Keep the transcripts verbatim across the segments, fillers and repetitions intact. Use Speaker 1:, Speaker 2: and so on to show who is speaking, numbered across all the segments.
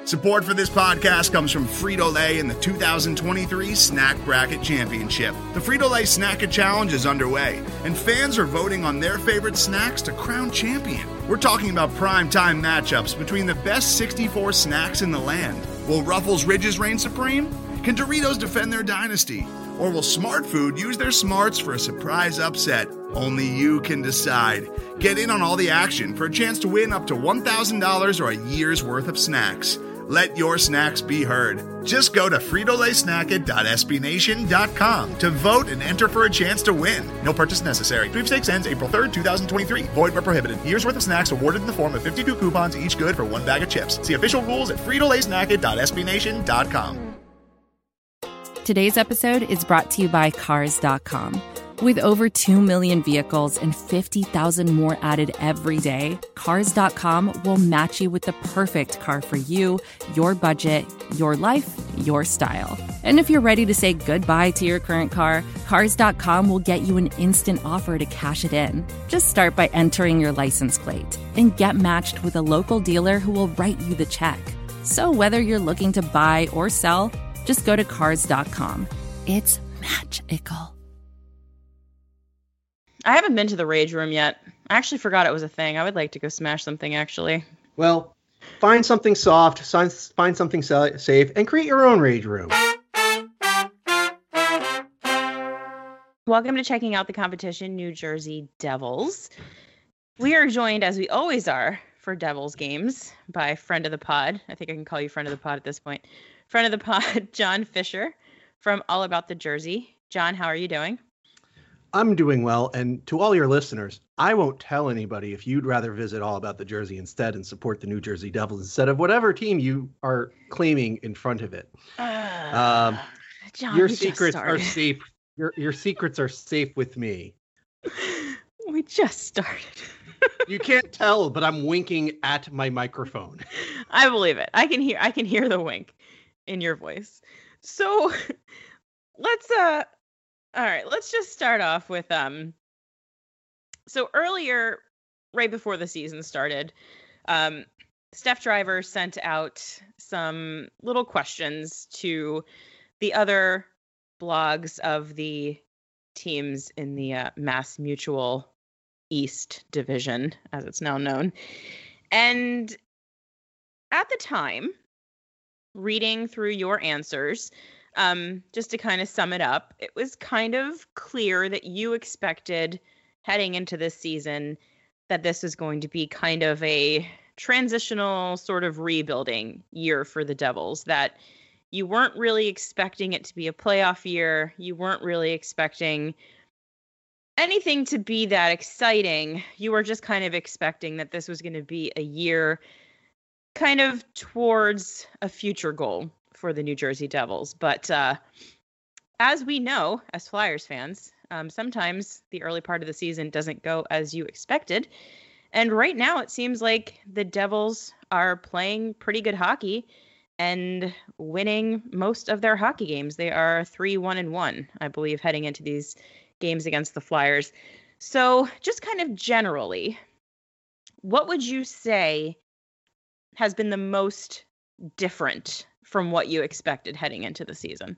Speaker 1: Support for this podcast comes from Frito-Lay and the two thousand twenty-three Snack Bracket Championship. The Frito-Lay Snack-It Challenge is underway, and fans are voting on their favorite snacks to crown champion. We're talking about prime-time matchups between the best sixty-four snacks in the land. Will Ruffles Ridges reign supreme? Can Doritos defend their dynasty? Or will Smart Food use their smarts for a surprise upset? Only you can decide. Get in on all the action for a chance to win up to one thousand dollars or a year's worth of snacks. Let your snacks be heard. Just go to Frito Lay Snack It dot S B Nation dot com to vote and enter for a chance to win. No purchase necessary. Sweepstakes ends April third, twenty twenty-three. Void where prohibited. Year's worth of snacks awarded in the form of fifty-two coupons, each good for one bag of chips. See official rules at Frito Lay Snack It dot S B Nation dot com.
Speaker 2: Today's episode is brought to you by Cars dot com. With over two million vehicles and fifty thousand more added every day, Cars dot com will match you with the perfect car for you, your budget, your life, your style. And if you're ready to say goodbye to your current car, Cars dot com will get you an instant offer to cash it in. Just start by entering your license plate and get matched with a local dealer who will write you the check. So whether you're looking to buy or sell, just go to Cars dot com. It's magical.
Speaker 3: I haven't been to the Rage Room yet. I actually forgot it was a thing. I would like to go smash something, actually.
Speaker 4: Well, find something soft, find something safe, and create your own Rage Room.
Speaker 3: Welcome to Checking Out the Competition, New Jersey Devils. We are joined, as we always are, for Devils games by friend of the pod. I think I can call you friend of the pod at this point. Friend of the pod, John Fisher from All About the Jersey. John, how are you doing?
Speaker 4: I'm doing well, and to all your listeners, I won't tell anybody if you'd rather visit All About the Jersey instead and support the New Jersey Devils instead of whatever team you are claiming in front of it. Uh, um,
Speaker 3: John,
Speaker 4: your secrets are safe. Your your secrets are safe with me.
Speaker 3: We just started.
Speaker 4: You can't tell, but I'm winking at my microphone.
Speaker 3: I believe it. I can hear. I can hear the wink in your voice. So let's uh. All right, let's just start off with um. So earlier, right before the season started, um, Steph Driver sent out some little questions to the other blogs of the teams in the uh, Mass Mutual East Division, as it's now known. And at the time, reading through your answers, Um, just to kind of sum it up, it was kind of clear that you expected heading into this season that this was going to be kind of a transitional sort of rebuilding year for the Devils, that you weren't really expecting it to be a playoff year. You weren't really expecting anything to be that exciting. You were just kind of expecting that this was going to be a year kind of towards a future goal for the New Jersey Devils. But uh, as we know, as Flyers fans, um, sometimes the early part of the season doesn't go as you expected. And right now it seems like the Devils are playing pretty good hockey and winning most of their hockey games. They are three one and one, I believe, heading into these games against the Flyers. So just kind of generally, what would you say has been the most different from what you expected heading into the season?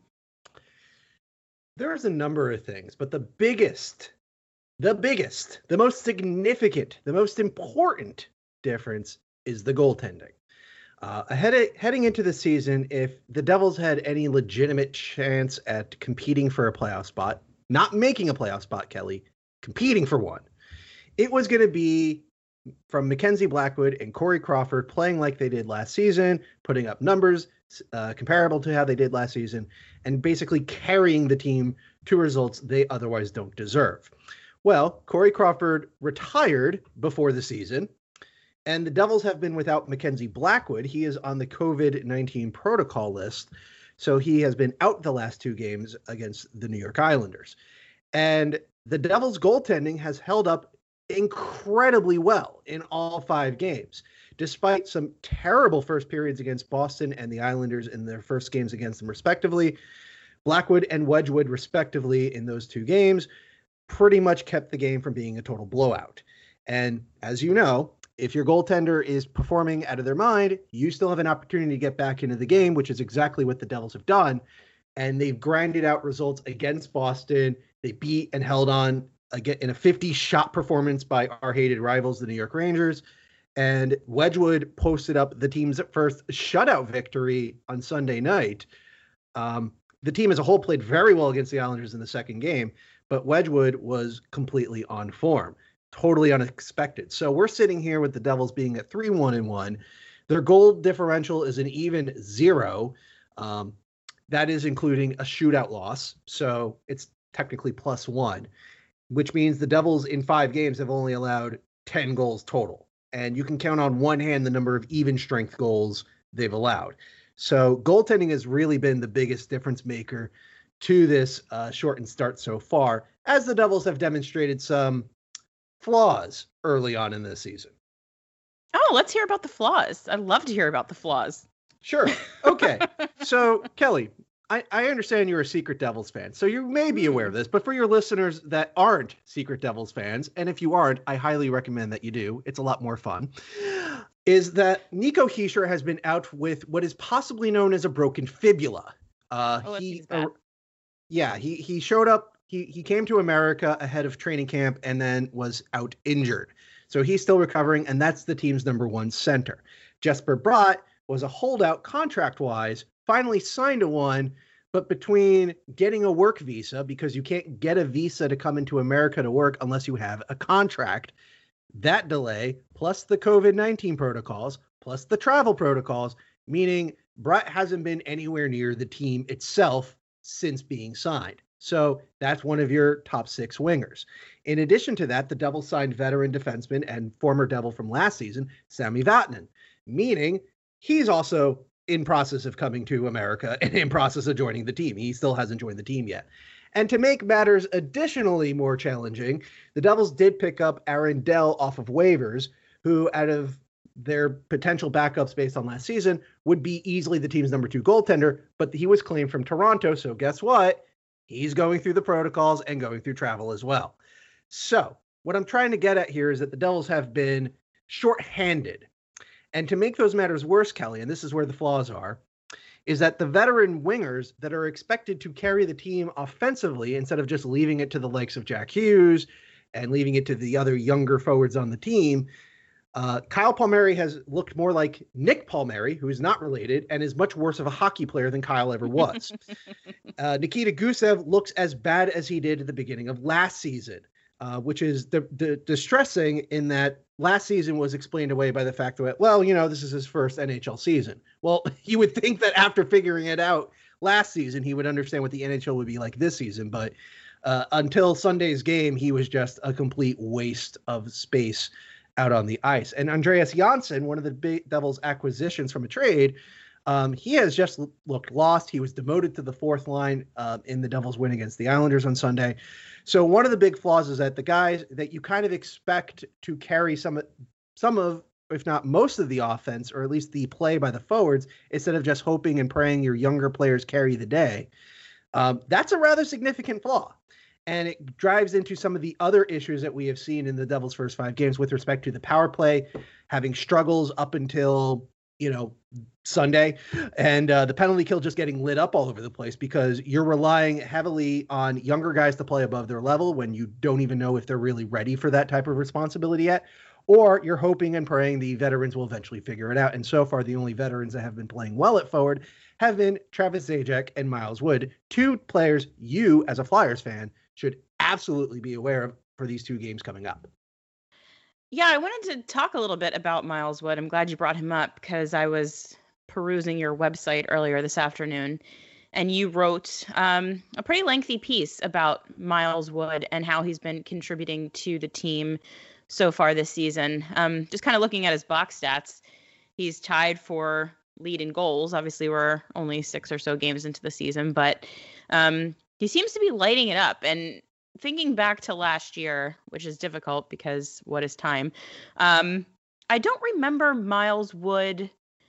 Speaker 4: There's a number of things, but the biggest, the biggest, the most significant, the most important difference is the goaltending. Uh, ahead of, heading into the season, if the Devils had any legitimate chance at competing for a playoff spot, not making a playoff spot, Kelly, competing for one, it was going to be from Mackenzie Blackwood and Corey Crawford playing like they did last season, putting up numbers uh, comparable to how they did last season, and basically carrying the team to results they otherwise don't deserve. Well, Corey Crawford retired before the season, and the Devils have been without Mackenzie Blackwood. He is on the covid nineteen protocol list, so he has been out the last two games against the New York Islanders. And the Devils' goaltending has held up incredibly well in all five games, despite some terrible first periods against Boston and the Islanders in their first games against them, respectively. Blackwood and Wedgwood, respectively, in those two games, pretty much kept the game from being a total blowout. And as you know, if your goaltender is performing out of their mind, you still have an opportunity to get back into the game, which is exactly what the Devils have done. And they've grinded out results against Boston. They beat and held on again in a fifty-shot performance by our hated rivals, the New York Rangers. And Wedgwood posted up the team's first shutout victory on Sunday night. Um, the team as a whole played very well against the Islanders in the second game, but Wedgwood was completely on form. Totally unexpected. So we're sitting here with the Devils being at three one and one. Their goal differential is an even zero. Um, that is including a shootout loss. So it's technically plus one, which means the Devils in five games have only allowed ten goals total. And you can count on one hand the number of even strength goals they've allowed. So goaltending has really been the biggest difference maker to this uh, shortened start so far, as the Devils have demonstrated some flaws early on in this season.
Speaker 3: Oh, let's hear about the flaws. I'd love to hear about the flaws.
Speaker 4: Sure. Okay. So, Kelly, I, I understand you're a Secret Devils fan, so you may be aware of this, but for your listeners that aren't Secret Devils fans, and if you aren't, I highly recommend that you do. It's a lot more fun. Is that Nico Hischier has been out with what is possibly known as a broken fibula. Uh,
Speaker 3: oh,
Speaker 4: he,
Speaker 3: bad.
Speaker 4: Uh, yeah, he he showed up. He he came to America ahead of training camp and then was out injured. So he's still recovering, and that's the team's number one center. Jesper Bratt was a holdout contract-wise, finally signed a one, but between getting a work visa, because you can't get a visa to come into America to work unless you have a contract, that delay, plus the covid nineteen protocols, plus the travel protocols, meaning Bratt hasn't been anywhere near the team itself since being signed. So that's one of your top six wingers. In addition to that, the Devils signed veteran defenseman and former Devil from last season, Sami Vatanen, meaning he's also in process of coming to America and in process of joining the team. He still hasn't joined the team yet. And to make matters additionally more challenging, the Devils did pick up Aaron Dell off of waivers, who out of their potential backups based on last season would be easily the team's number two goaltender, but he was claimed from Toronto. So guess what? He's going through the protocols and going through travel as well. So what I'm trying to get at here is that the Devils have been shorthanded. And to make those matters worse, Kelly, and this is where the flaws are, is that the veteran wingers that are expected to carry the team offensively instead of just leaving it to the likes of Jack Hughes and leaving it to the other younger forwards on the team, Uh, Kyle Palmieri has looked more like Nick Palmieri, who is not related and is much worse of a hockey player than Kyle ever was. uh, Nikita Gusev looks as bad as he did at the beginning of last season, uh, which is the, the distressing in that last season was explained away by the fact that, well, you know, this is his first N H L season. Well, you would think that after figuring it out last season, he would understand what the N H L would be like this season. But uh, until Sunday's game, he was just a complete waste of space out on the ice. And Andreas Janssen, one of the big Devils acquisitions from a trade, um, he has just l- looked lost. He was demoted to the fourth line uh, in the Devils win against the Islanders on Sunday. So one of the big flaws is that the guys that you kind of expect to carry some, some of, if not most of the offense, or at least the play by the forwards, instead of just hoping and praying your younger players carry the day, um, that's a rather significant flaw. And it drives into some of the other issues that we have seen in the Devils' first five games with respect to the power play, having struggles up until, you know, Sunday, and uh, the penalty kill just getting lit up all over the place because you're relying heavily on younger guys to play above their level when you don't even know if they're really ready for that type of responsibility yet, or you're hoping and praying the veterans will eventually figure it out. And so far, the only veterans that have been playing well at forward have been Travis Zajac and Miles Wood, two players you, as a Flyers fan, should absolutely be aware of for these two games coming up.
Speaker 3: Yeah, I wanted to talk a little bit about Miles Wood. I'm glad you brought him up because I was perusing your website earlier this afternoon, and you wrote um, a pretty lengthy piece about Miles Wood and how he's been contributing to the team so far this season. Um, just kind of looking at his box stats, he's tied for lead in goals. Obviously, we're only six or so games into the season, but um, he seems to be lighting it up. And thinking back to last year, which is difficult because what is time? Um, I don't remember Miles Wood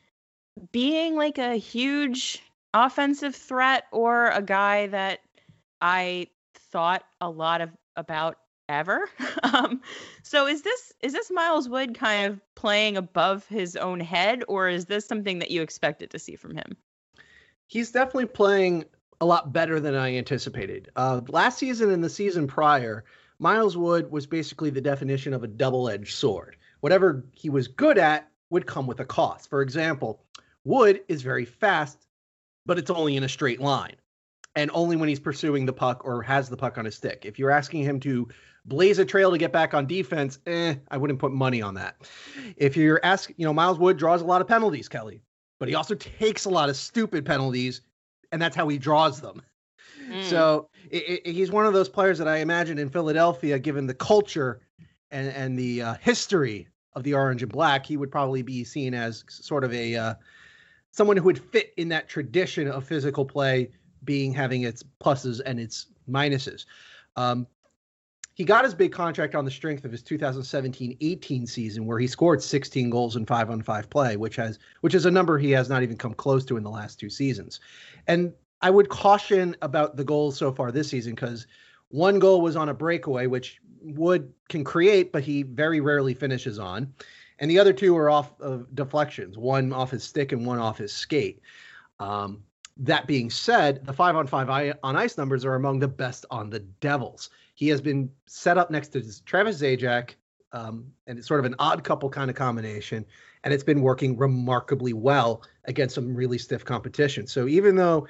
Speaker 3: being like a huge offensive threat or a guy that I thought a lot of about ever. um, so is this is this Miles Wood kind of playing above his own head, or is this something that you expected to see from him?
Speaker 4: He's definitely playing a lot better than I anticipated. Uh, last season and the season prior, Miles Wood was basically the definition of a double-edged sword. Whatever he was good at would come with a cost. For example, Wood is very fast, but it's only in a straight line, and only when he's pursuing the puck or has the puck on his stick. If you're asking him to blaze a trail to get back on defense, eh, I wouldn't put money on that. If you're asking, you know, Miles Wood draws a lot of penalties, Kelly, but he also takes a lot of stupid penalties, and that's how he draws them. Mm. So it, it, he's one of those players that I imagine in Philadelphia, given the culture and, and the uh, history of the orange and black, he would probably be seen as sort of a uh, someone who would fit in that tradition of physical play, being having its pluses and its minuses. Um, he got his big contract on the strength of his two thousand seventeen eighteen season, where he scored sixteen goals in five on five play, which has which is a number he has not even come close to in the last two seasons. And I would caution about the goals so far this season, because one goal was on a breakaway, which Wood can create, but he very rarely finishes on. And the other two are off of deflections, one off his stick and one off his skate. Um, that being said, the five on five on ice numbers are among the best on the Devils. He has been set up next to Travis Zajac, um, and it's sort of an odd couple kind of combination, and it's been working remarkably well against some really stiff competition. So even though,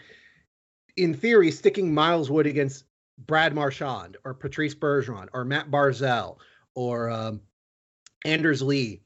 Speaker 4: in theory, sticking Miles Wood against Brad Marchand or Patrice Bergeron or Matt Barzal or um, Anders Lee,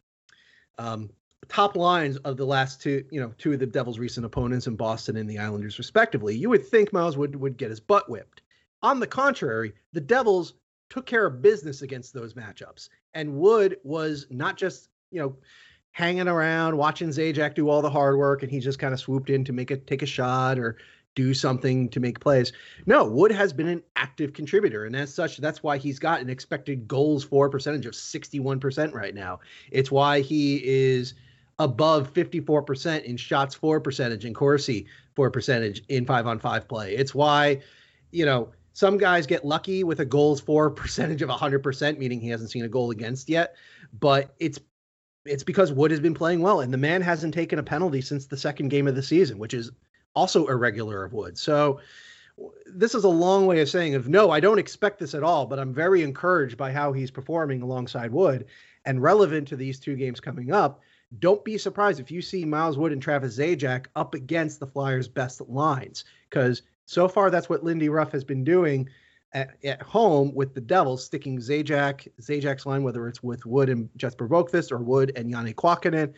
Speaker 4: um, top lines of the last two, you know, two of the Devils' recent opponents in Boston and the Islanders, respectively, you would think Miles Wood would get his butt whipped. On the contrary, the Devils took care of business against those matchups, and Wood was not just, you know, hanging around watching Zajac do all the hard work, and he just kind of swooped in to make a take a shot or do something to make plays. No, Wood has been an active contributor, and as such, that's why he's got an expected goals for percentage of sixty-one percent right now. It's why he is above fifty-four percent in shots for percentage and Corsi for percentage in five on five play. It's why, you know, some guys get lucky with a goals for percentage of one hundred percent, meaning he hasn't seen a goal against yet. But it's it's because Wood has been playing well, and the man hasn't taken a penalty since the second game of the season, which is also irregular of Wood. So this is a long way of saying of no, I don't expect this at all, but I'm very encouraged by how he's performing alongside Wood. And relevant to these two games coming up, don't be surprised if you see Miles Wood and Travis Zajac up against the Flyers' best lines, because so far that's what Lindy Ruff has been doing at, at home with the Devils, sticking Zajac, Zajac's line, whether it's with Wood and Jesper Boqvist or Wood and Janne Kuokkanen.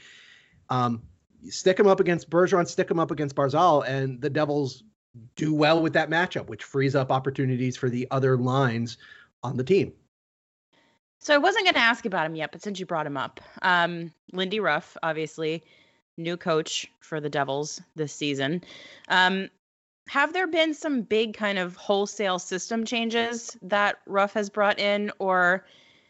Speaker 4: Um, stick him up against Bergeron, stick him up against Barzal, and the Devils do well with that matchup, which frees up opportunities for the other lines on the team.
Speaker 3: So I wasn't going to ask about him yet, but since you brought him up, um, Lindy Ruff, obviously, new coach for the Devils this season. Um, have there been some big kind of wholesale system changes that Ruff has brought in, or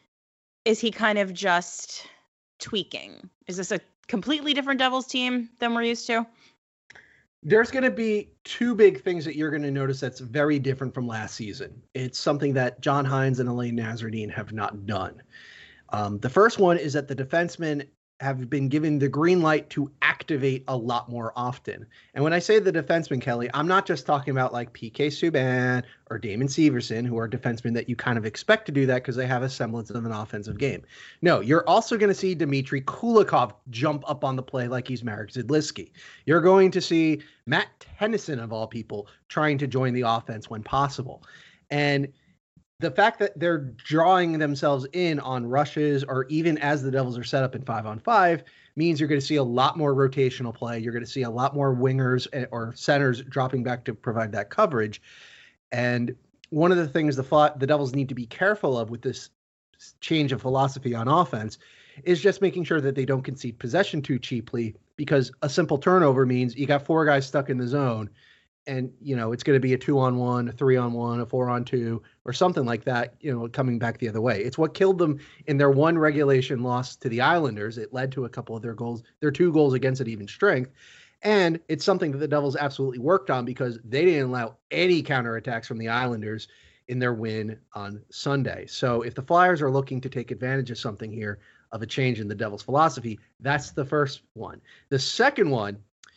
Speaker 3: is he kind of just tweaking? Is this a completely different Devils team than we're used to?
Speaker 4: There's going to be two big things that you're going to notice that's very different from last season. It's something that John Hynes and Elaine Nasreddine have not done. Um, the first one is that the defensemen have been given the green light to activate a lot more often. And when I say the defensemen, Kelly, I'm not just talking about like P K Subban or Damon Severson, who are defensemen that you kind of expect to do that because they have a semblance of an offensive game. No, you're also going to see Dmitry Kulikov jump up on the play like he's Marek Zidliski. You're going to see Matt Tennyson, of all people, trying to join the offense when possible. And the fact that they're drawing themselves in on rushes, or even as the Devils are set up in five on five, means you're going to see a lot more rotational play. You're going to see a lot more wingers or centers dropping back to provide that coverage. And one of the things the the Devils need to be careful of with this change of philosophy on offense is just making sure that they don't concede possession too cheaply, because a simple turnover means you got four guys stuck in the zone. And, you know, it's going to be a two on one, a three on one, a four on two, or something like that, you know, coming back the other way. It's what killed them in their one regulation loss to the Islanders. It led to a couple of their goals, their two goals against an even strength. And it's something that the Devils absolutely worked on, because they didn't allow any counterattacks from the Islanders in their win on Sunday. So if the Flyers are looking to take advantage of something here, of a change in the Devils' philosophy, that's the first one. The second one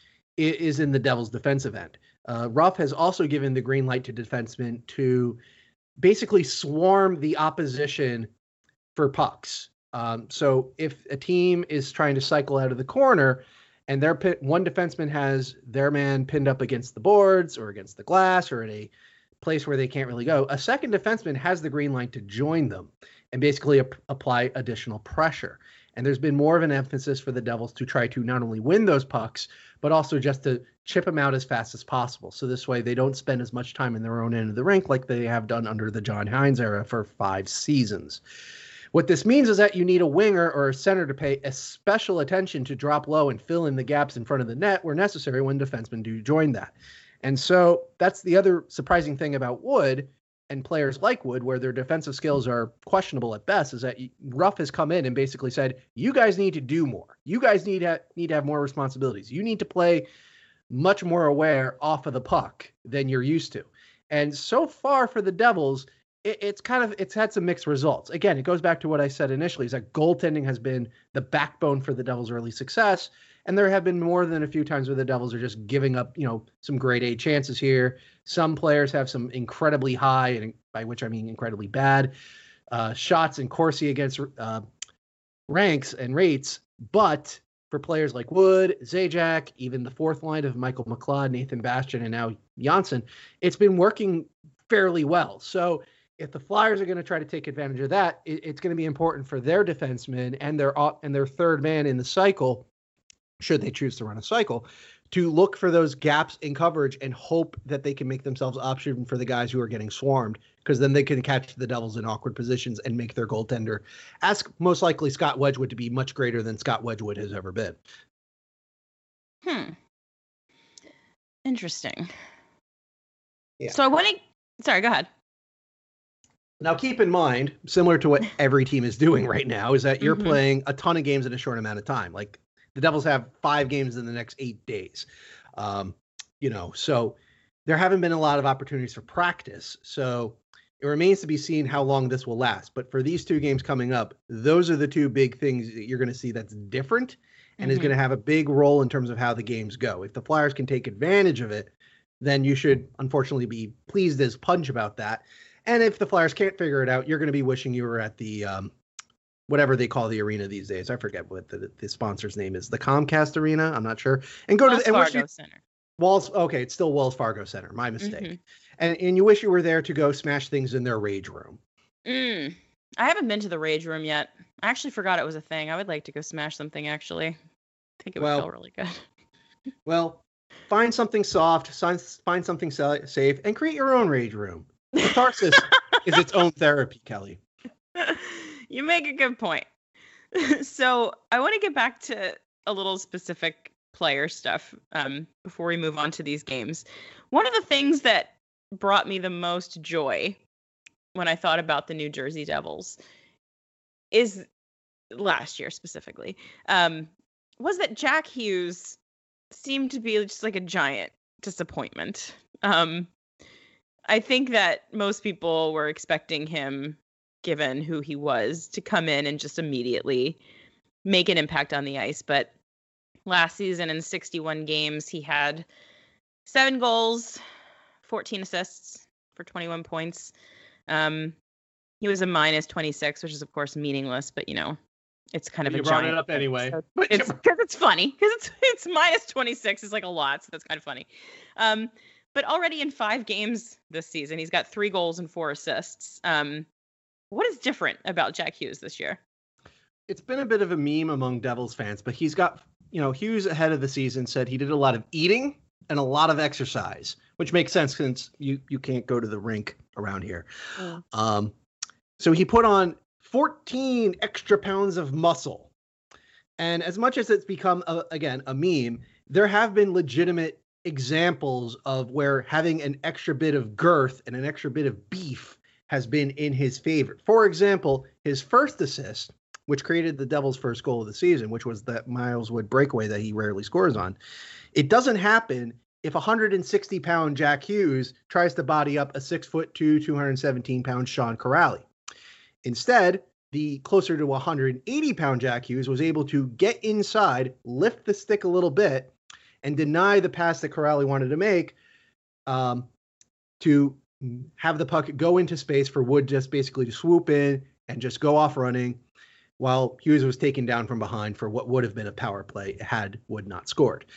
Speaker 4: is in the Devils' defensive end. Uh, Ruff has also given the green light to defensemen to basically swarm the opposition for pucks. Um, so if a team is trying to cycle out of the corner and their pin, one defenseman has their man pinned up against the boards or against the glass or in a place where they can't really go, a second defenseman has the green light to join them and basically ap- apply additional pressure. And there's been more of an emphasis for the Devils to try to not only win those pucks, but also just to chip them out as fast as possible. So this way they don't spend as much time in their own end of the rink like they have done under the John Hines era for five seasons. What this means is that you need a winger or a center to pay a special attention to drop low and fill in the gaps in front of the net where necessary when defensemen do join that. And so that's the other surprising thing about Wood and players like Wood, where their defensive skills are questionable at best, is that Ruff has come in and basically said, you guys need to do more. You guys need to, need to have more responsibilities. You need to play much more aware off of the puck than you're used to. And so far for the Devils, it, it's kind of, it's had some mixed results. Again, it goes back to what I said initially, is that goaltending has been the backbone for the Devils' early success. And there have been more than a few times where the Devils are just giving up, you know, some grade A chances here. Some players have some incredibly high, and by which I mean incredibly bad, uh, shots in Corsi against uh, ranks and rates. But for players like Wood, Zajac, even the fourth line of Michael McLeod, Nathan Bastian, and now Janssen, it's been working fairly well. So if the Flyers are going to try to take advantage of that, it, it's going to be important for their defensemen and their and their third man in the cycle, should they choose to run a cycle, to look for those gaps in coverage and hope that they can make themselves option for the guys who are getting swarmed, because then they can catch the Devils in awkward positions and make their goaltender, ask most likely Scott Wedgwood, to be much greater than Scott Wedgwood has ever been.
Speaker 3: Hmm. Interesting.
Speaker 4: Yeah.
Speaker 3: So I want to, sorry, go ahead.
Speaker 4: Now, keep in mind, similar to what every team is doing right now, is that you're mm-hmm. playing a ton of games in a short amount of time. Like, the Devils have five games in the next eight days. Um, you know, so there haven't been a lot of opportunities for practice. So it remains to be seen how long this will last. But for these two games coming up, those are the two big things that you're going to see that's different and mm-hmm. is going to have a big role in terms of how the games go. If the Flyers can take advantage of it, then you should unfortunately be pleased as punch about that. And if the Flyers can't figure it out, you're going to be wishing you were at the um, whatever they call the arena these days. I forget what the, the sponsor's name is. The Comcast Arena? I'm not sure. And go
Speaker 3: Wells
Speaker 4: to the
Speaker 3: Fargo
Speaker 4: you,
Speaker 3: Center.
Speaker 4: Walls. Okay, it's still Wells Fargo Center. My mistake.
Speaker 3: Mm-hmm.
Speaker 4: And and you wish you were there to go smash things in their rage room.
Speaker 3: Mm. I haven't been to the rage room yet. I actually forgot it was a thing. I would like to go smash something, actually. I think it would
Speaker 4: well,
Speaker 3: feel really good.
Speaker 4: Well, find something soft, find something safe, and create your own rage room. Catharsis is its own therapy, Kelly.
Speaker 3: You make a good point. So I want to get back to a little specific player stuff um, before we move on to these games. One of the things that brought me the most joy when I thought about the New Jersey Devils is last year specifically, um, was that Jack Hughes seemed to be just like a giant disappointment. Um, I think that most people were expecting him, given who he was, to come in and just immediately make an impact on the ice. But last season in sixty-one games, he had seven goals, fourteen assists for twenty-one points. Um, he was a minus twenty-six, which is of course meaningless, but you know, it's kind of
Speaker 4: you
Speaker 3: a
Speaker 4: brought
Speaker 3: giant
Speaker 4: it up
Speaker 3: thing,
Speaker 4: anyway.
Speaker 3: So it's because it's funny, because it's it's minus twenty-six is like a lot, so that's kind of funny. Um, but already in five games this season, he's got three goals and four assists. Um, what is different about Jack Hughes this year?
Speaker 4: It's been a bit of a meme among Devils fans, but he's got, you know, Hughes ahead of the season said he did a lot of eating and a lot of exercise, which makes sense since you, you can't go to the rink around here. Mm. Um, so he put on fourteen extra pounds of muscle. And as much as it's become, a, again, a meme, there have been legitimate examples of where having an extra bit of girth and an extra bit of beef has been in his favor. For example, his first assist, which created the Devils' first goal of the season, which was that Miles Wood breakaway that he rarely scores on, it doesn't happen if one hundred sixty pound Jack Hughes tries to body up a six foot two, two hundred seventeen pound Sean Corrali. Instead, the closer to one hundred eighty pound Jack Hughes was able to get inside, lift the stick a little bit, and deny the pass that Corrali wanted to make um, to have the puck go into space for Wood just basically to swoop in and just go off running while Hughes was taken down from behind for what would have been a power play had Wood not scored.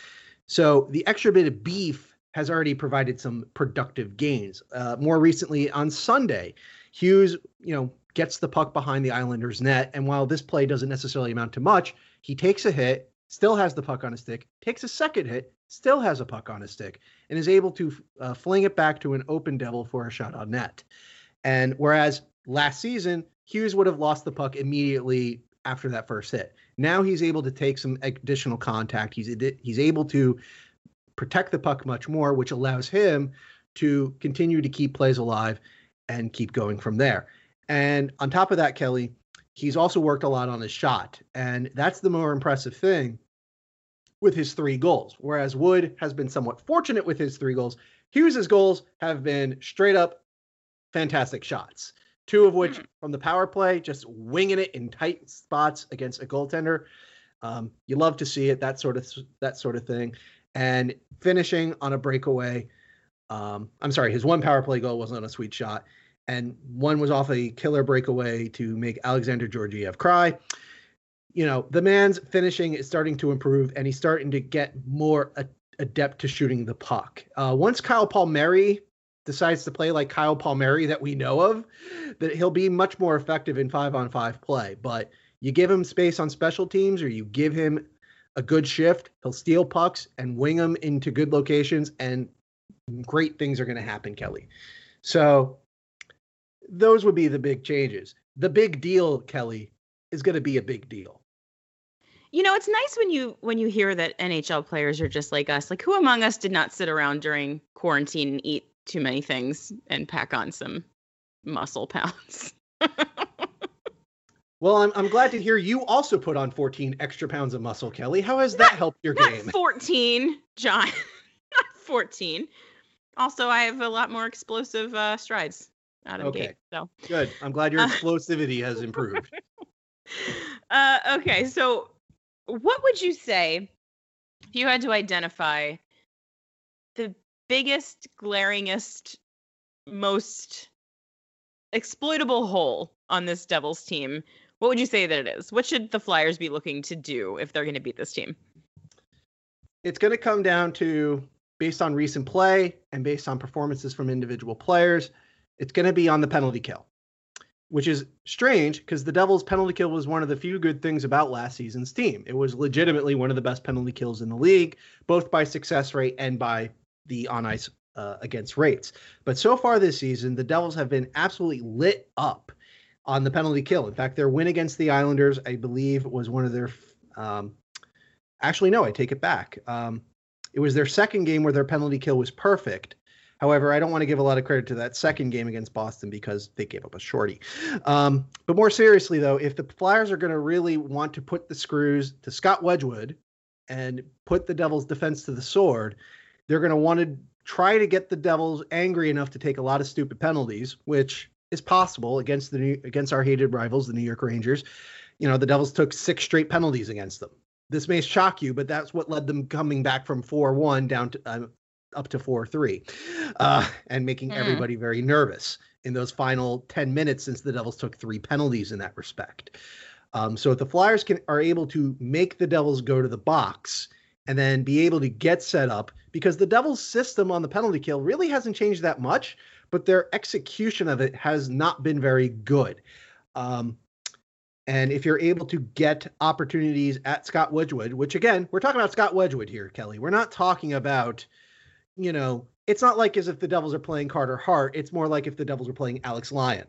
Speaker 4: So the extra bit of beef has already provided some productive gains. Uh, more recently on Sunday, Hughes, you know, gets the puck behind the Islanders' net, and while this play doesn't necessarily amount to much, he takes a hit, still has the puck on his stick, takes a second hit, still has a puck on his stick, and is able to uh, fling it back to an open devil for a shot on net. And whereas last season, Hughes would have lost the puck immediately after that first hit. Now he's able to take some additional contact. He's he's able to protect the puck much more, which allows him to continue to keep plays alive and keep going from there. And on top of that, Kelly, he's also worked a lot on his shot. And that's the more impressive thing with his three goals. Whereas Wood has been somewhat fortunate with his three goals, Hughes's goals have been straight up fantastic shots. Two of which from the power play, just winging it in tight spots against a goaltender. Um, you love to see it, that sort of that sort of thing. And finishing on a breakaway. Um, I'm sorry, his one power play goal wasn't a sweet shot. And one was off a killer breakaway to make Alexander Georgiev cry. You know, the man's finishing is starting to improve, and he's starting to get more a- adept to shooting the puck. Uh, once Kyle Palmieri decides to play like Kyle Palmieri that we know of, that he'll be much more effective in five-on-five play. But you give him space on special teams, or you give him a good shift, he'll steal pucks and wing them into good locations, and great things are going to happen, Kelly. So those would be the big changes. The big deal, Kelly, is going to be a big deal.
Speaker 3: You know, it's nice when you when you hear that N H L players are just like us. Like, who among us did not sit around during quarantine and eat too many things and pack on some muscle pounds?
Speaker 4: Well, I'm I'm glad to hear you also put on fourteen extra pounds of muscle, Kelly. How has that
Speaker 3: not,
Speaker 4: helped your
Speaker 3: not
Speaker 4: game?
Speaker 3: fourteen, John. Not fourteen. Also, I have a lot more explosive uh, strides out of
Speaker 4: Okay.
Speaker 3: gate. So
Speaker 4: Good. I'm glad your
Speaker 3: Uh,
Speaker 4: explosivity has improved.
Speaker 3: Uh, okay, so what would you say if you had to identify the biggest, glaringest, most exploitable hole on this Devils team? What would you say that it is? What should the Flyers be looking to do if they're going to beat this team?
Speaker 4: It's going to come down to, based on recent play and based on performances from individual players, it's going to be on the penalty kill, which is strange because the Devils' penalty kill was one of the few good things about last season's team. It was legitimately one of the best penalty kills in the league, both by success rate and by the on-ice uh, against rates. But so far this season, the Devils have been absolutely lit up on the penalty kill. In fact, their win against the Islanders, I believe, was one of their um, – actually, no, I take it back. Um, it was their second game where their penalty kill was perfect. However, I don't want to give a lot of credit to that second game against Boston because they gave up a shorty. Um, but more seriously, though, if the Flyers are going to really want to put the screws to Scott Wedgwood and put the Devils' defense to the sword, they're going to want to try to get the Devils angry enough to take a lot of stupid penalties, which is possible against the New, against our hated rivals, the New York Rangers. You know, the Devils took six straight penalties against them. This may shock you, but that's what led them coming back from four one down to uh, up to four three, uh, and making mm. everybody very nervous in those final ten minutes since the Devils took three penalties in that respect. Um, so if the Flyers can are able to make the Devils go to the box and then be able to get set up, because the Devils' system on the penalty kill really hasn't changed that much, but their execution of it has not been very good. Um, and if you're able to get opportunities at Scott Wedgwood, which again, we're talking about Scott Wedgwood here, Kelly. We're not talking about, you know, it's not like as if the Devils are playing Carter Hart. It's more like if the Devils are playing Alex Lyon.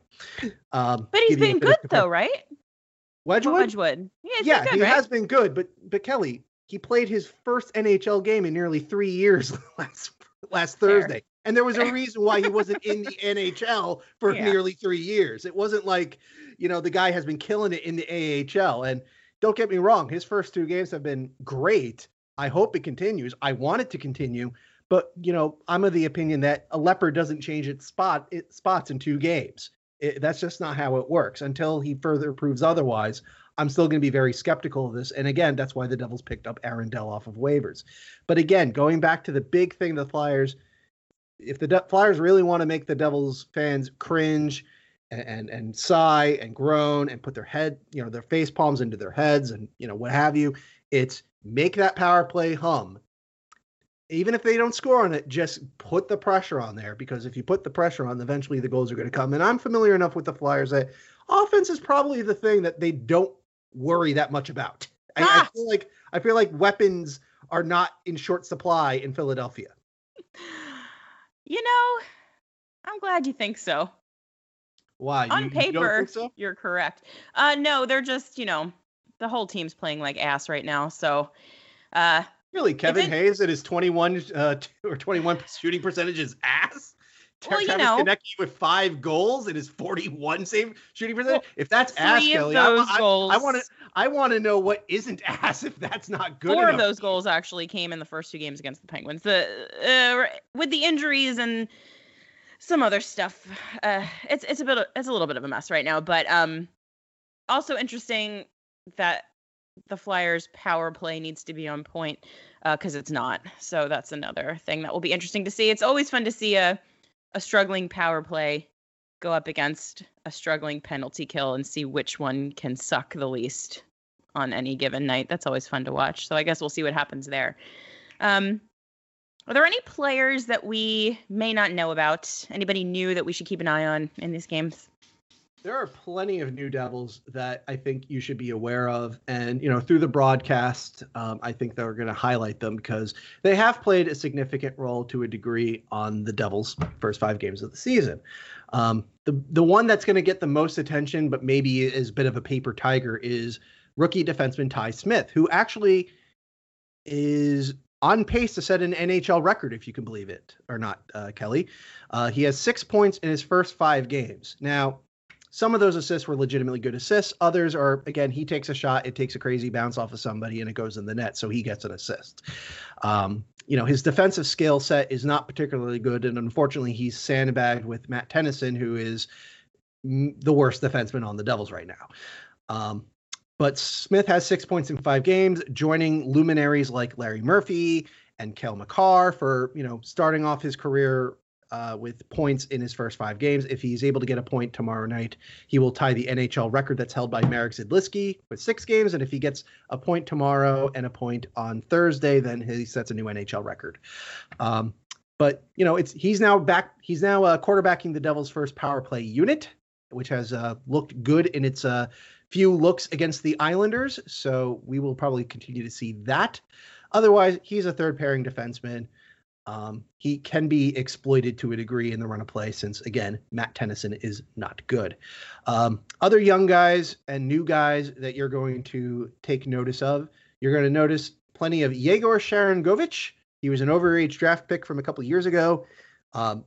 Speaker 4: Um,
Speaker 3: but he's been good though, right?
Speaker 4: Wedgwood?
Speaker 3: Wedgwood. Yeah, he's
Speaker 4: yeah
Speaker 3: been good,
Speaker 4: he
Speaker 3: right?
Speaker 4: has been good. But but Kelly, he played his first N H L game in nearly three years last last
Speaker 3: Fair.
Speaker 4: Thursday. And there was a reason why he wasn't in the N H L for
Speaker 3: Yeah.
Speaker 4: nearly three years. It wasn't like, you know, the guy has been killing it in the A H L. And don't get me wrong, his first two games have been great. I hope it continues. I want it to continue. But, you know, I'm of the opinion that a leopard doesn't change its spot, its spots in two games. It, that's just not how it works. Until he further proves otherwise, I'm still going to be very skeptical of this. And again, that's why the Devils picked up Aaron Dell off of waivers. But again, going back to the big thing, the Flyers, if the De- Flyers really want to make the Devils fans cringe and, and and sigh and groan and put their head, you know, their face palms into their heads and, you know, what have you, it's make that power play hum. Even if they don't score on it, just put the pressure on there, because if you put the pressure on, eventually the goals are going to come. And I'm familiar enough with the Flyers that offense is probably the thing that they don't worry that much about. I, ah! I feel like I feel like weapons are not in short supply in Philadelphia.
Speaker 3: You know, I'm glad you think so.
Speaker 4: Why?
Speaker 3: On
Speaker 4: you,
Speaker 3: paper,
Speaker 4: you don't think so?
Speaker 3: You're correct. Uh, no, they're just, you know, the whole team's playing like ass right now. So, uh,
Speaker 4: really, Kevin
Speaker 3: it,
Speaker 4: Hayes at his twenty-one uh, or twenty-one shooting percentage is ass.
Speaker 3: Well,
Speaker 4: Travis
Speaker 3: you know,
Speaker 4: Konecny with five goals and his forty-one save shooting percentage.
Speaker 3: Well,
Speaker 4: if that's ass, Kelly,
Speaker 3: those
Speaker 4: I want to. I want to know what isn't ass if that's not good.
Speaker 3: Four
Speaker 4: enough.
Speaker 3: of those goals actually came in the first two games against the Penguins. The uh, with the injuries and some other stuff, uh, it's it's a bit of, it's a little bit of a mess right now. But um, also interesting that the Flyers' power play needs to be on point because uh, it's not. So that's another thing that will be interesting to see. It's always fun to see a a struggling power play go up against a struggling penalty kill and see which one can suck the least on any given night. That's always fun to watch. So I guess we'll see what happens there. Um, are there any players that we may not know about? Anybody new that we should keep an eye on in these games?
Speaker 4: There are plenty of new Devils that I think you should be aware of. And, you know, through the broadcast, um, I think they're going to highlight them because they have played a significant role to a degree on the Devils' first five games of the season. Um, the, the one that's going to get the most attention, but maybe is a bit of a paper tiger, is rookie defenseman Ty Smith, who actually is on pace to set an N H L record, if you can believe it or not, uh, Kelly. Uh, he has six points in his first five games. Now, some of those assists were legitimately good assists. Others are, again, he takes a shot, it takes a crazy bounce off of somebody, and it goes in the net, so he gets an assist. Um, you know, his defensive skill set is not particularly good, and unfortunately, he's sandbagged with Matt Tennyson, who is m- the worst defenseman on the Devils right now. Um, but Smith has six points in five games, joining luminaries like Larry Murphy and Cale Makar for, you know, starting off his career Uh, with points in his first five games. If he's able to get a point tomorrow night, he will tie the N H L record that's held by Marek Zidliski with six games. And if he gets a point tomorrow and a point on Thursday, then he sets a new N H L record. Um, but, you know, it's he's now back. He's now uh, quarterbacking the Devils' first power play unit, which has uh, looked good in its uh, few looks against the Islanders. So we will probably continue to see that. Otherwise, he's a third pairing defenseman. Um, he can be exploited to a degree in the run of play since, again, Matt Tennyson is not good. Um, other young guys and new guys that you're going to take notice of, you're going to notice plenty of Yegor Sharangovich. He was an overage draft pick from a couple of years ago. Um,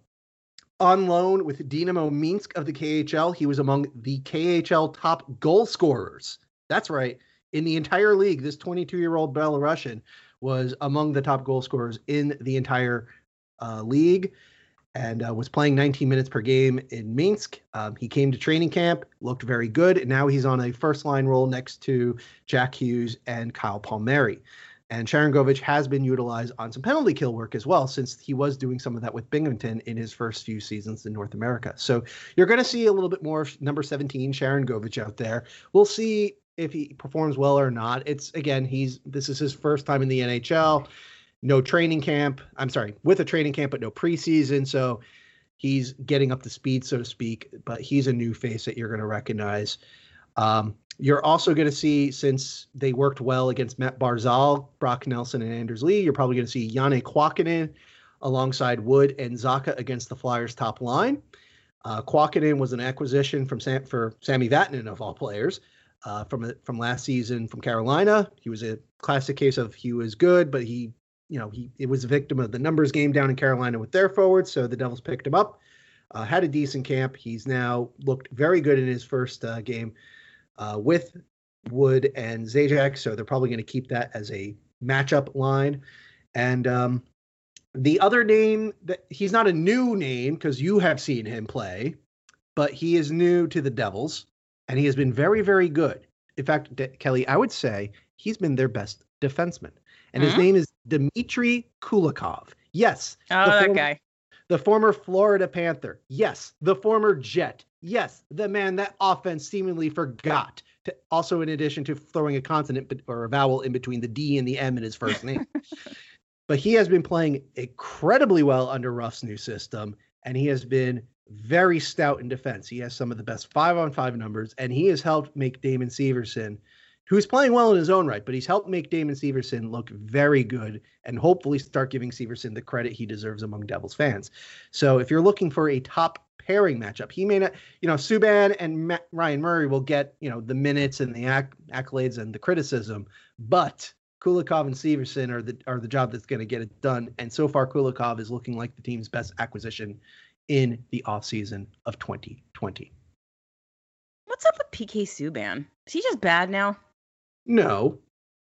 Speaker 4: on loan with Dynamo Minsk of the K H L, he was among the K H L top goal scorers. That's right. In the entire league, this twenty-two-year-old Belarusian was among the top goal scorers in the entire uh, league and uh, was playing nineteen minutes per game in Minsk. Um, he came to training camp, looked very good, and now he's on a first-line role next to Jack Hughes and Kyle Palmieri. And Sharangovich has been utilized on some penalty kill work as well, since he was doing some of that with Binghamton in his first few seasons in North America. So you're going to see a little bit more number seventeen Sharangovich out there. We'll see if he performs well or not. It's again, he's this is his first time in the N H L, no training camp. I'm sorry, with a training camp, but no preseason. So he's getting up to speed, so to speak, but he's a new face that you're going to recognize. Um, you're also going to see, since they worked well against Matt Barzal, Brock Nelson, and Anders Lee, you're probably going to see Janne Kuokkanen alongside Wood and Zacha against the Flyers' top line. Uh, Kuokkanen was an acquisition from Sam, for Sammy Vatanen, of all players. Uh, from from last season from Carolina. He was a classic case of he was good, but he, you know, he it was a victim of the numbers game down in Carolina with their forwards. So the Devils picked him up, uh, had a decent camp. He's now looked very good in his first uh, game uh, with Wood and Zajac. So they're probably going to keep that as a matchup line. And um, The other name, that he's not a new name because you have seen him play, but he is new to the Devils, and he has been very, very good. In fact, De- Kelly, I would say he's been their best defenseman, and his
Speaker 3: Mm-hmm.
Speaker 4: name is Dmitry Kulikov. Yes.
Speaker 3: Oh,
Speaker 4: the
Speaker 3: that
Speaker 4: former,
Speaker 3: guy.
Speaker 4: The former Florida Panther. Yes. The former Jet. Yes. The man that offense seemingly forgot. To, also, in addition to throwing a consonant or a vowel in between the D and the M in his first name. But he has been playing incredibly well under Ruff's new system, and he has been very stout in defense. He has some of the best five-on-five numbers, and he has helped make Damon Severson, who's playing well in his own right, but he's helped make Damon Severson look very good and hopefully start giving Severson the credit he deserves among Devils fans. So if you're looking for a top pairing matchup, he may not, you know, Subban and Ma- Ryan Murray will get, you know, the minutes and the acc- accolades and the criticism, but Kulikov and Severson are the are the job that's going to get it done. And so far, Kulikov is looking like the team's best acquisition in the offseason of twenty twenty.
Speaker 3: What's up with P K Subban? Is he just bad now?
Speaker 4: No,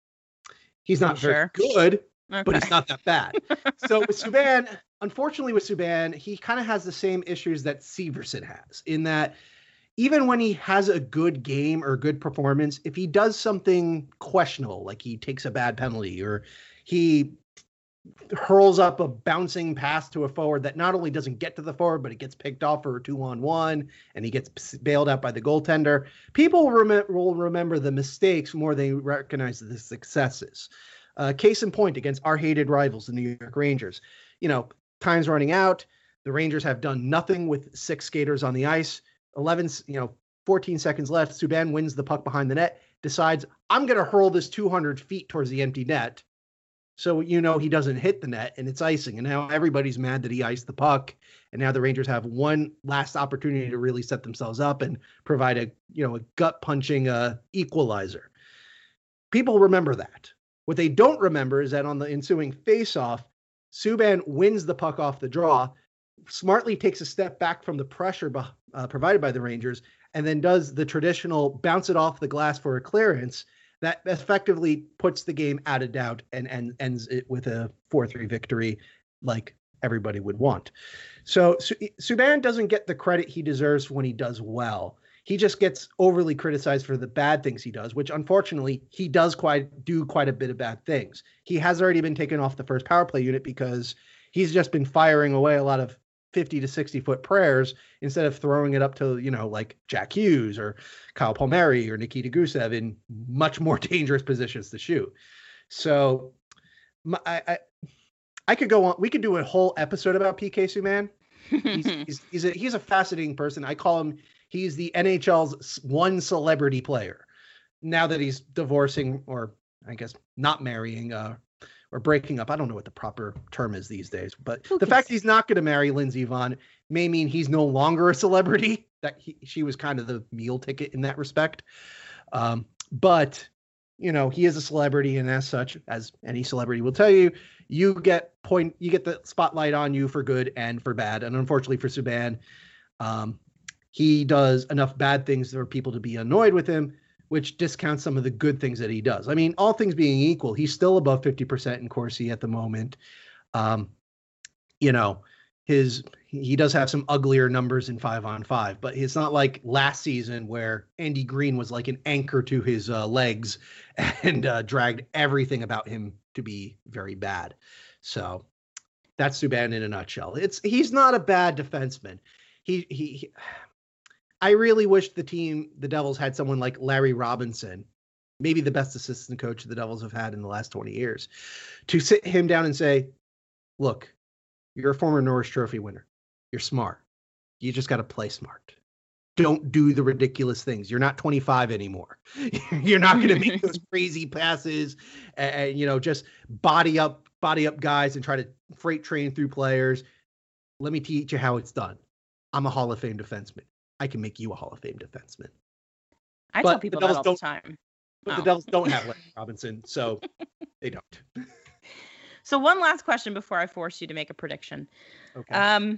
Speaker 4: he's not
Speaker 3: You
Speaker 4: very
Speaker 3: sure?
Speaker 4: good,
Speaker 3: Okay.
Speaker 4: but he's not that bad. So with Subban, unfortunately with Subban, he kind of has the same issues that Severson has in that even when he has a good game or good performance, if he does something questionable, like he takes a bad penalty or he hurls up a bouncing pass to a forward that not only doesn't get to the forward, but it gets picked off for a two-on-one and he gets bailed out by the goaltender, people will, rem- will remember the mistakes more than they recognize the successes. Uh, case in point, against our hated rivals, the New York Rangers. You know, time's running out. The Rangers have done nothing with six skaters on the ice. eleven, you know, fourteen seconds left. Subban wins the puck behind the net, decides, I'm going to hurl this two hundred feet towards the empty net. So, you know, he doesn't hit the net and it's icing. And now everybody's mad that he iced the puck. And now the Rangers have one last opportunity to really set themselves up and provide a, you know, a gut punching uh, equalizer. People remember that. What they don't remember is that on the ensuing face-off, Subban wins the puck off the draw, smartly takes a step back from the pressure uh, provided by the Rangers, and then does the traditional bounce it off the glass for a clearance that effectively puts the game out of doubt and, and ends it with a four three victory like everybody would want. So Subban doesn't get the credit he deserves when he does well. He just gets overly criticized for the bad things he does, which unfortunately he does quite do quite a bit of bad things. He has already been taken off the first power play unit because he's just been firing away a lot of fifty to sixty foot prayers instead of throwing it up to, you know, like Jack Hughes or Kyle Palmieri or Nikita Gusev in much more dangerous positions to shoot. So I, I, I could go on. We could do a whole episode about P K Subban. He's, he's, he's, a, he's a fascinating person. I call him, he's the N H L's one celebrity player. Now that he's divorcing or I guess not marrying uh, or breaking up. I don't know what the proper term is these days, but
Speaker 3: Who
Speaker 4: the
Speaker 3: can
Speaker 4: fact
Speaker 3: say?
Speaker 4: he's not going to marry Lindsey Vonn may mean he's no longer a celebrity. That he, she was kind of the meal ticket in that respect. Um, but, you know, he is a celebrity, and as such, as any celebrity will tell you, you get point, you get the spotlight on you for good and for bad. And unfortunately for Subban, um, he does enough bad things for people to be annoyed with him, which discounts some of the good things that he does. I mean, all things being equal, he's still above fifty percent in Corsi at the moment. Um, you know, his he does have some uglier numbers in five on five, but it's not like last season where Andy Green was like an anchor to his uh, legs and uh, dragged everything about him to be very bad. So that's Subban in a nutshell. It's he's not a bad defenseman. He he. he I really wish the team, the Devils, had someone like Larry Robinson, maybe the best assistant coach the Devils have had in the last twenty years, to sit him down and say, look, you're a former Norris Trophy winner. You're smart. You just got to play smart. Don't do the ridiculous things. You're not twenty-five anymore. You're not going to make those crazy passes and, and, you know, just body up, body up guys and try to freight train through players. Let me teach you how it's done. I'm a Hall of Fame defenseman. I can make you a Hall of Fame defenseman.
Speaker 3: I
Speaker 4: But
Speaker 3: tell
Speaker 4: the
Speaker 3: people that
Speaker 4: Devils
Speaker 3: all the
Speaker 4: don't-
Speaker 3: time.
Speaker 4: But
Speaker 3: Oh.
Speaker 4: the Devils don't have Larry Robinson, so they don't.
Speaker 3: So one last question before I force you to make a prediction.
Speaker 4: Okay.
Speaker 3: Um,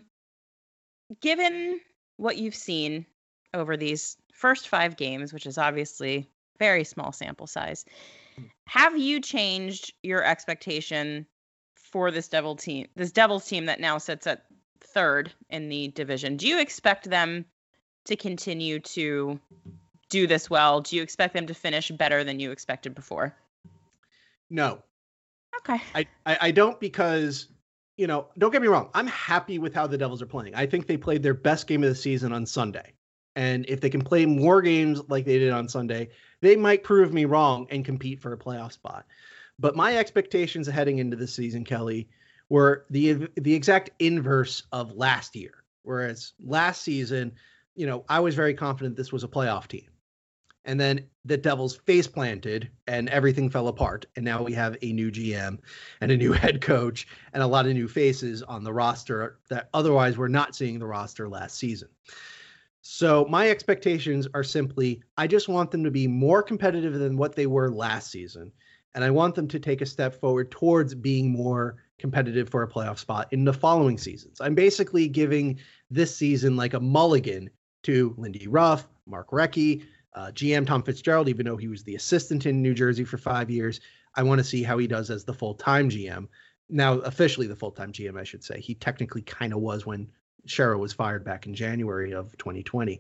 Speaker 3: given what you've seen over these first five games, which is obviously very small sample size, have you changed your expectation for this Devil team, this Devils team that now sits at third in the division. Do you expect them to continue to do this well? Do you expect them to finish better than you expected before?
Speaker 4: No.
Speaker 3: Okay.
Speaker 4: I, I, I don't because, you know, don't get me wrong. I'm happy with how the Devils are playing. I think they played their best game of the season on Sunday. And if they can play more games like they did on Sunday, they might prove me wrong and compete for a playoff spot. But my expectations heading into the season, Kelly, were the the exact inverse of last year. Whereas last season, you know, I was very confident this was a playoff team. And then the Devils face planted and everything fell apart. And now we have a new G M and a new head coach and a lot of new faces on the roster that otherwise we're not seeing the roster last season. So my expectations are simply, I just want them to be more competitive than what they were last season. And I want them to take a step forward towards being more competitive for a playoff spot in the following seasons. I'm basically giving this season like a mulligan to Lindy Ruff, Mark Recchi, uh, G M Tom Fitzgerald, even though he was the assistant in New Jersey for five years. I want to see how he does as the full-time G M. Now, officially the full-time G M, I should say. He technically kind of was when Shero was fired back in January of twenty twenty.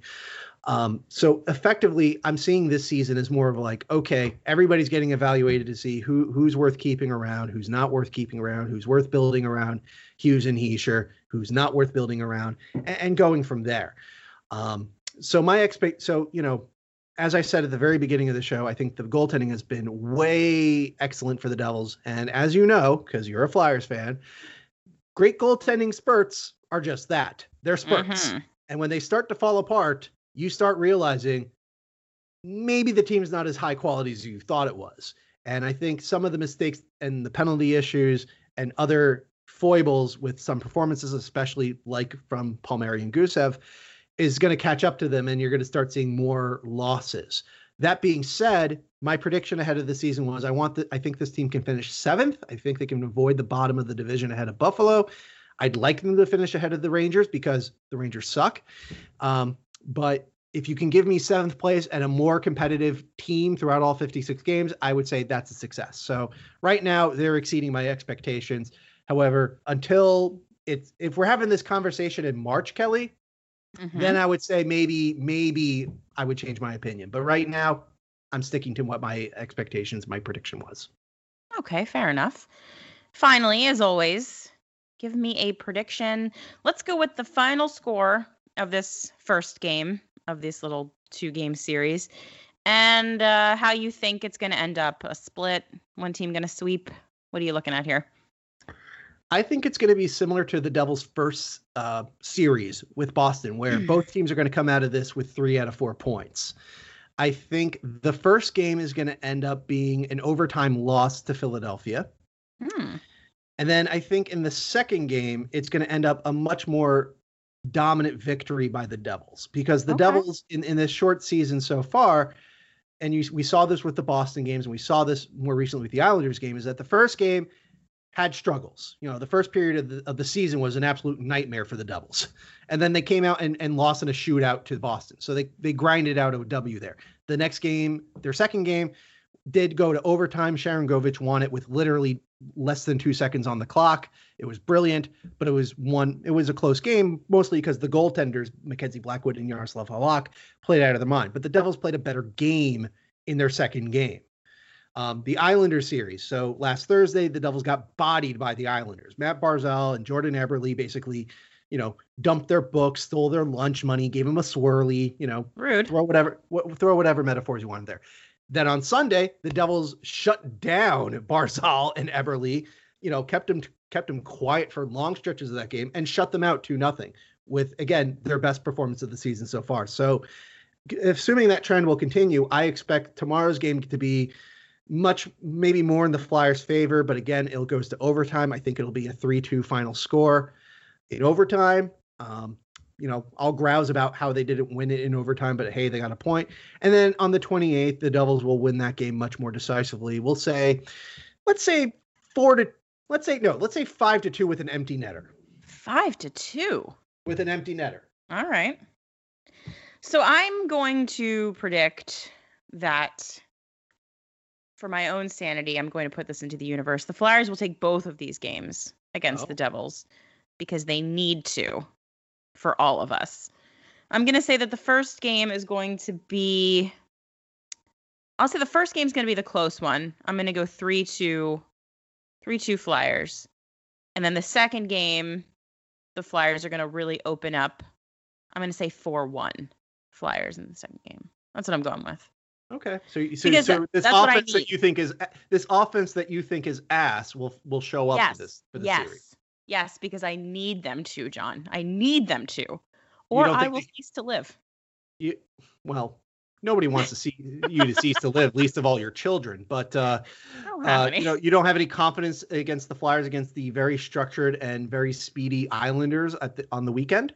Speaker 4: Um, so effectively, I'm seeing this season as more of like, okay, everybody's getting evaluated to see who who's worth keeping around, who's not worth keeping around, who's worth building around Hughes and Hischier, who's not worth building around, and, and going from there. Um, so my expect, so, you know, as I said at the very beginning of the show, I think the goaltending has been way excellent for the Devils. And as you know, because you're a Flyers fan, great goaltending spurts are just that. They're spurts. Mm-hmm. And when they start to fall apart, you start realizing maybe the team's not as high quality as you thought it was. And I think some of the mistakes and the penalty issues and other foibles with some performances, especially like from Palmieri and Gusev, is going to catch up to them, and you're going to start seeing more losses. That being said, my prediction ahead of the season was I want the, I think this team can finish seventh. I think they can avoid the bottom of the division ahead of Buffalo. I'd like them to finish ahead of the Rangers because the Rangers suck. Um, but if you can give me seventh place and a more competitive team throughout all fifty-six games, I would say that's a success. So right now they're exceeding my expectations. However, until it's, if we're having this conversation in March, Kelly, mm-hmm. then I would say maybe, maybe I would change my opinion. But right now I'm sticking to what my expectations, my prediction was.
Speaker 3: Okay, fair enough. Finally, as always, give me a prediction. Let's go with the final score of this first game of this little two-game series and uh, how you think it's going to end up. A split, one team going to sweep. What are you looking at here?
Speaker 4: I think it's going to be similar to the Devils' first uh, series with Boston, where both teams are going to come out of this with three out of four points. I think the first game is going to end up being an overtime loss to Philadelphia.
Speaker 3: Hmm.
Speaker 4: And then I think in the second game, it's going to end up a much more dominant victory by the Devils, because the okay. Devils in, in this short season so far, and you, we saw this with the Boston games, and we saw this more recently with the Islanders game, is that the first game had struggles. You know, the first period of the, of the season was an absolute nightmare for the Devils. And then they came out and, and lost in a shootout to Boston. So they, they grinded out a W there. The next game, their second game, did go to overtime. Sharon Govich won it with literally less than two seconds on the clock. It was brilliant, but it was one, it was a close game, mostly because the goaltenders, Mackenzie Blackwood and Yaroslav Halak, played out of their mind. But the Devils played a better game in their second game. Um, the Islanders series. So last Thursday, the Devils got bodied by the Islanders. Matt Barzal and Jordan Eberle basically, you know, dumped their books, stole their lunch money, gave them a swirly, you know,
Speaker 3: rude,
Speaker 4: throw whatever, wh- throw whatever metaphors you want there. Then on Sunday, the Devils shut down Barzal and Eberle, you know, kept them, kept them quiet for long stretches of that game and shut them out two nothing with, again, their best performance of the season so far. So assuming that trend will continue, I expect tomorrow's game to be much, maybe more in the Flyers' favor, but again, it goes to overtime. I think it'll be a three two final score in overtime. Um, you know, I'll grouse about how they didn't win it in overtime, but hey, they got a point. And then on the twenty-eighth, the Devils will win that game much more decisively. We'll say, let's say four to, let's say, no, let's say five to two with an empty netter.
Speaker 3: Five to two?
Speaker 4: With an empty netter.
Speaker 3: All right. So I'm going to predict that for my own sanity, I'm going to put this into the universe. The Flyers will take both of these games against
Speaker 4: Oh.
Speaker 3: the Devils because they need to for all of us. I'm going to say that the first game is going to be, I'll say the first game is going to be the close one. I'm going to go three two, three two Flyers. And then the second game, the Flyers are going to really open up. I'm going to say four one Flyers in the second game. That's what I'm going with.
Speaker 4: Okay, so so,
Speaker 3: Because
Speaker 4: so this
Speaker 3: that's what I
Speaker 4: offense that
Speaker 3: need.
Speaker 4: you think is this offense that you think is ass will will show up
Speaker 3: Yes.
Speaker 4: for this for the
Speaker 3: yes.
Speaker 4: series.
Speaker 3: Yes, because I need them to, John. I need them to. Or
Speaker 4: don't
Speaker 3: I
Speaker 4: think
Speaker 3: will
Speaker 4: they-
Speaker 3: cease to live.
Speaker 4: You well, nobody wants to see you to cease to live, least of all your children. But uh,
Speaker 3: I don't have
Speaker 4: uh,
Speaker 3: any.
Speaker 4: you know, you don't have any confidence against the Flyers against the very structured and very speedy Islanders at the, on the weekend.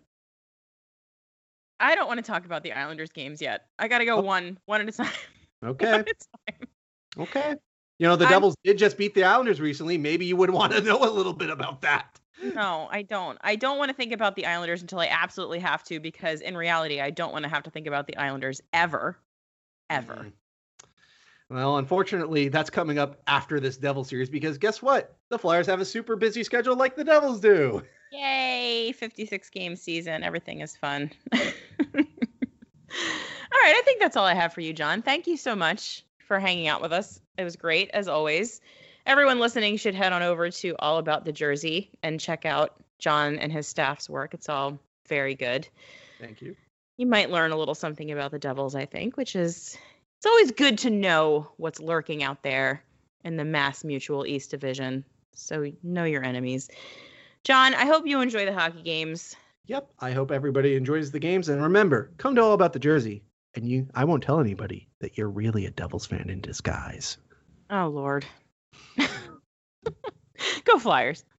Speaker 3: I don't want to talk about the Islanders games yet. I got to go
Speaker 4: Oh.
Speaker 3: one one at a time.
Speaker 4: Okay,
Speaker 3: One at a time.
Speaker 4: okay. You know, the
Speaker 3: I'm-
Speaker 4: Devils did just beat the Islanders recently. Maybe you would want to know a little bit about that.
Speaker 3: No, I don't. I don't want to think about the Islanders until I absolutely have to, because in reality, I don't want to have to think about the Islanders ever. Ever.
Speaker 4: Mm. Well, unfortunately, that's coming up after this Devil series because guess what? The Flyers have a super busy schedule like the Devils do.
Speaker 3: Yay, fifty-six game season. Everything is fun. All right, I think that's all I have for you, John. Thank you so much for hanging out with us. It was great, as always. Everyone listening should head on over to All About the Jersey and check out John and his staff's work. It's all very good.
Speaker 4: Thank you.
Speaker 3: You might learn a little something about the Devils, I think, which is, it's always good to know what's lurking out there in the Mass Mutual East Division. So know your enemies. John, I hope you enjoy the hockey games.
Speaker 4: Yep. I hope everybody enjoys the games. And remember, come to All About the Jersey. And you, I won't tell anybody that you're really a Devils fan in disguise.
Speaker 3: Oh, Lord. Go Flyers.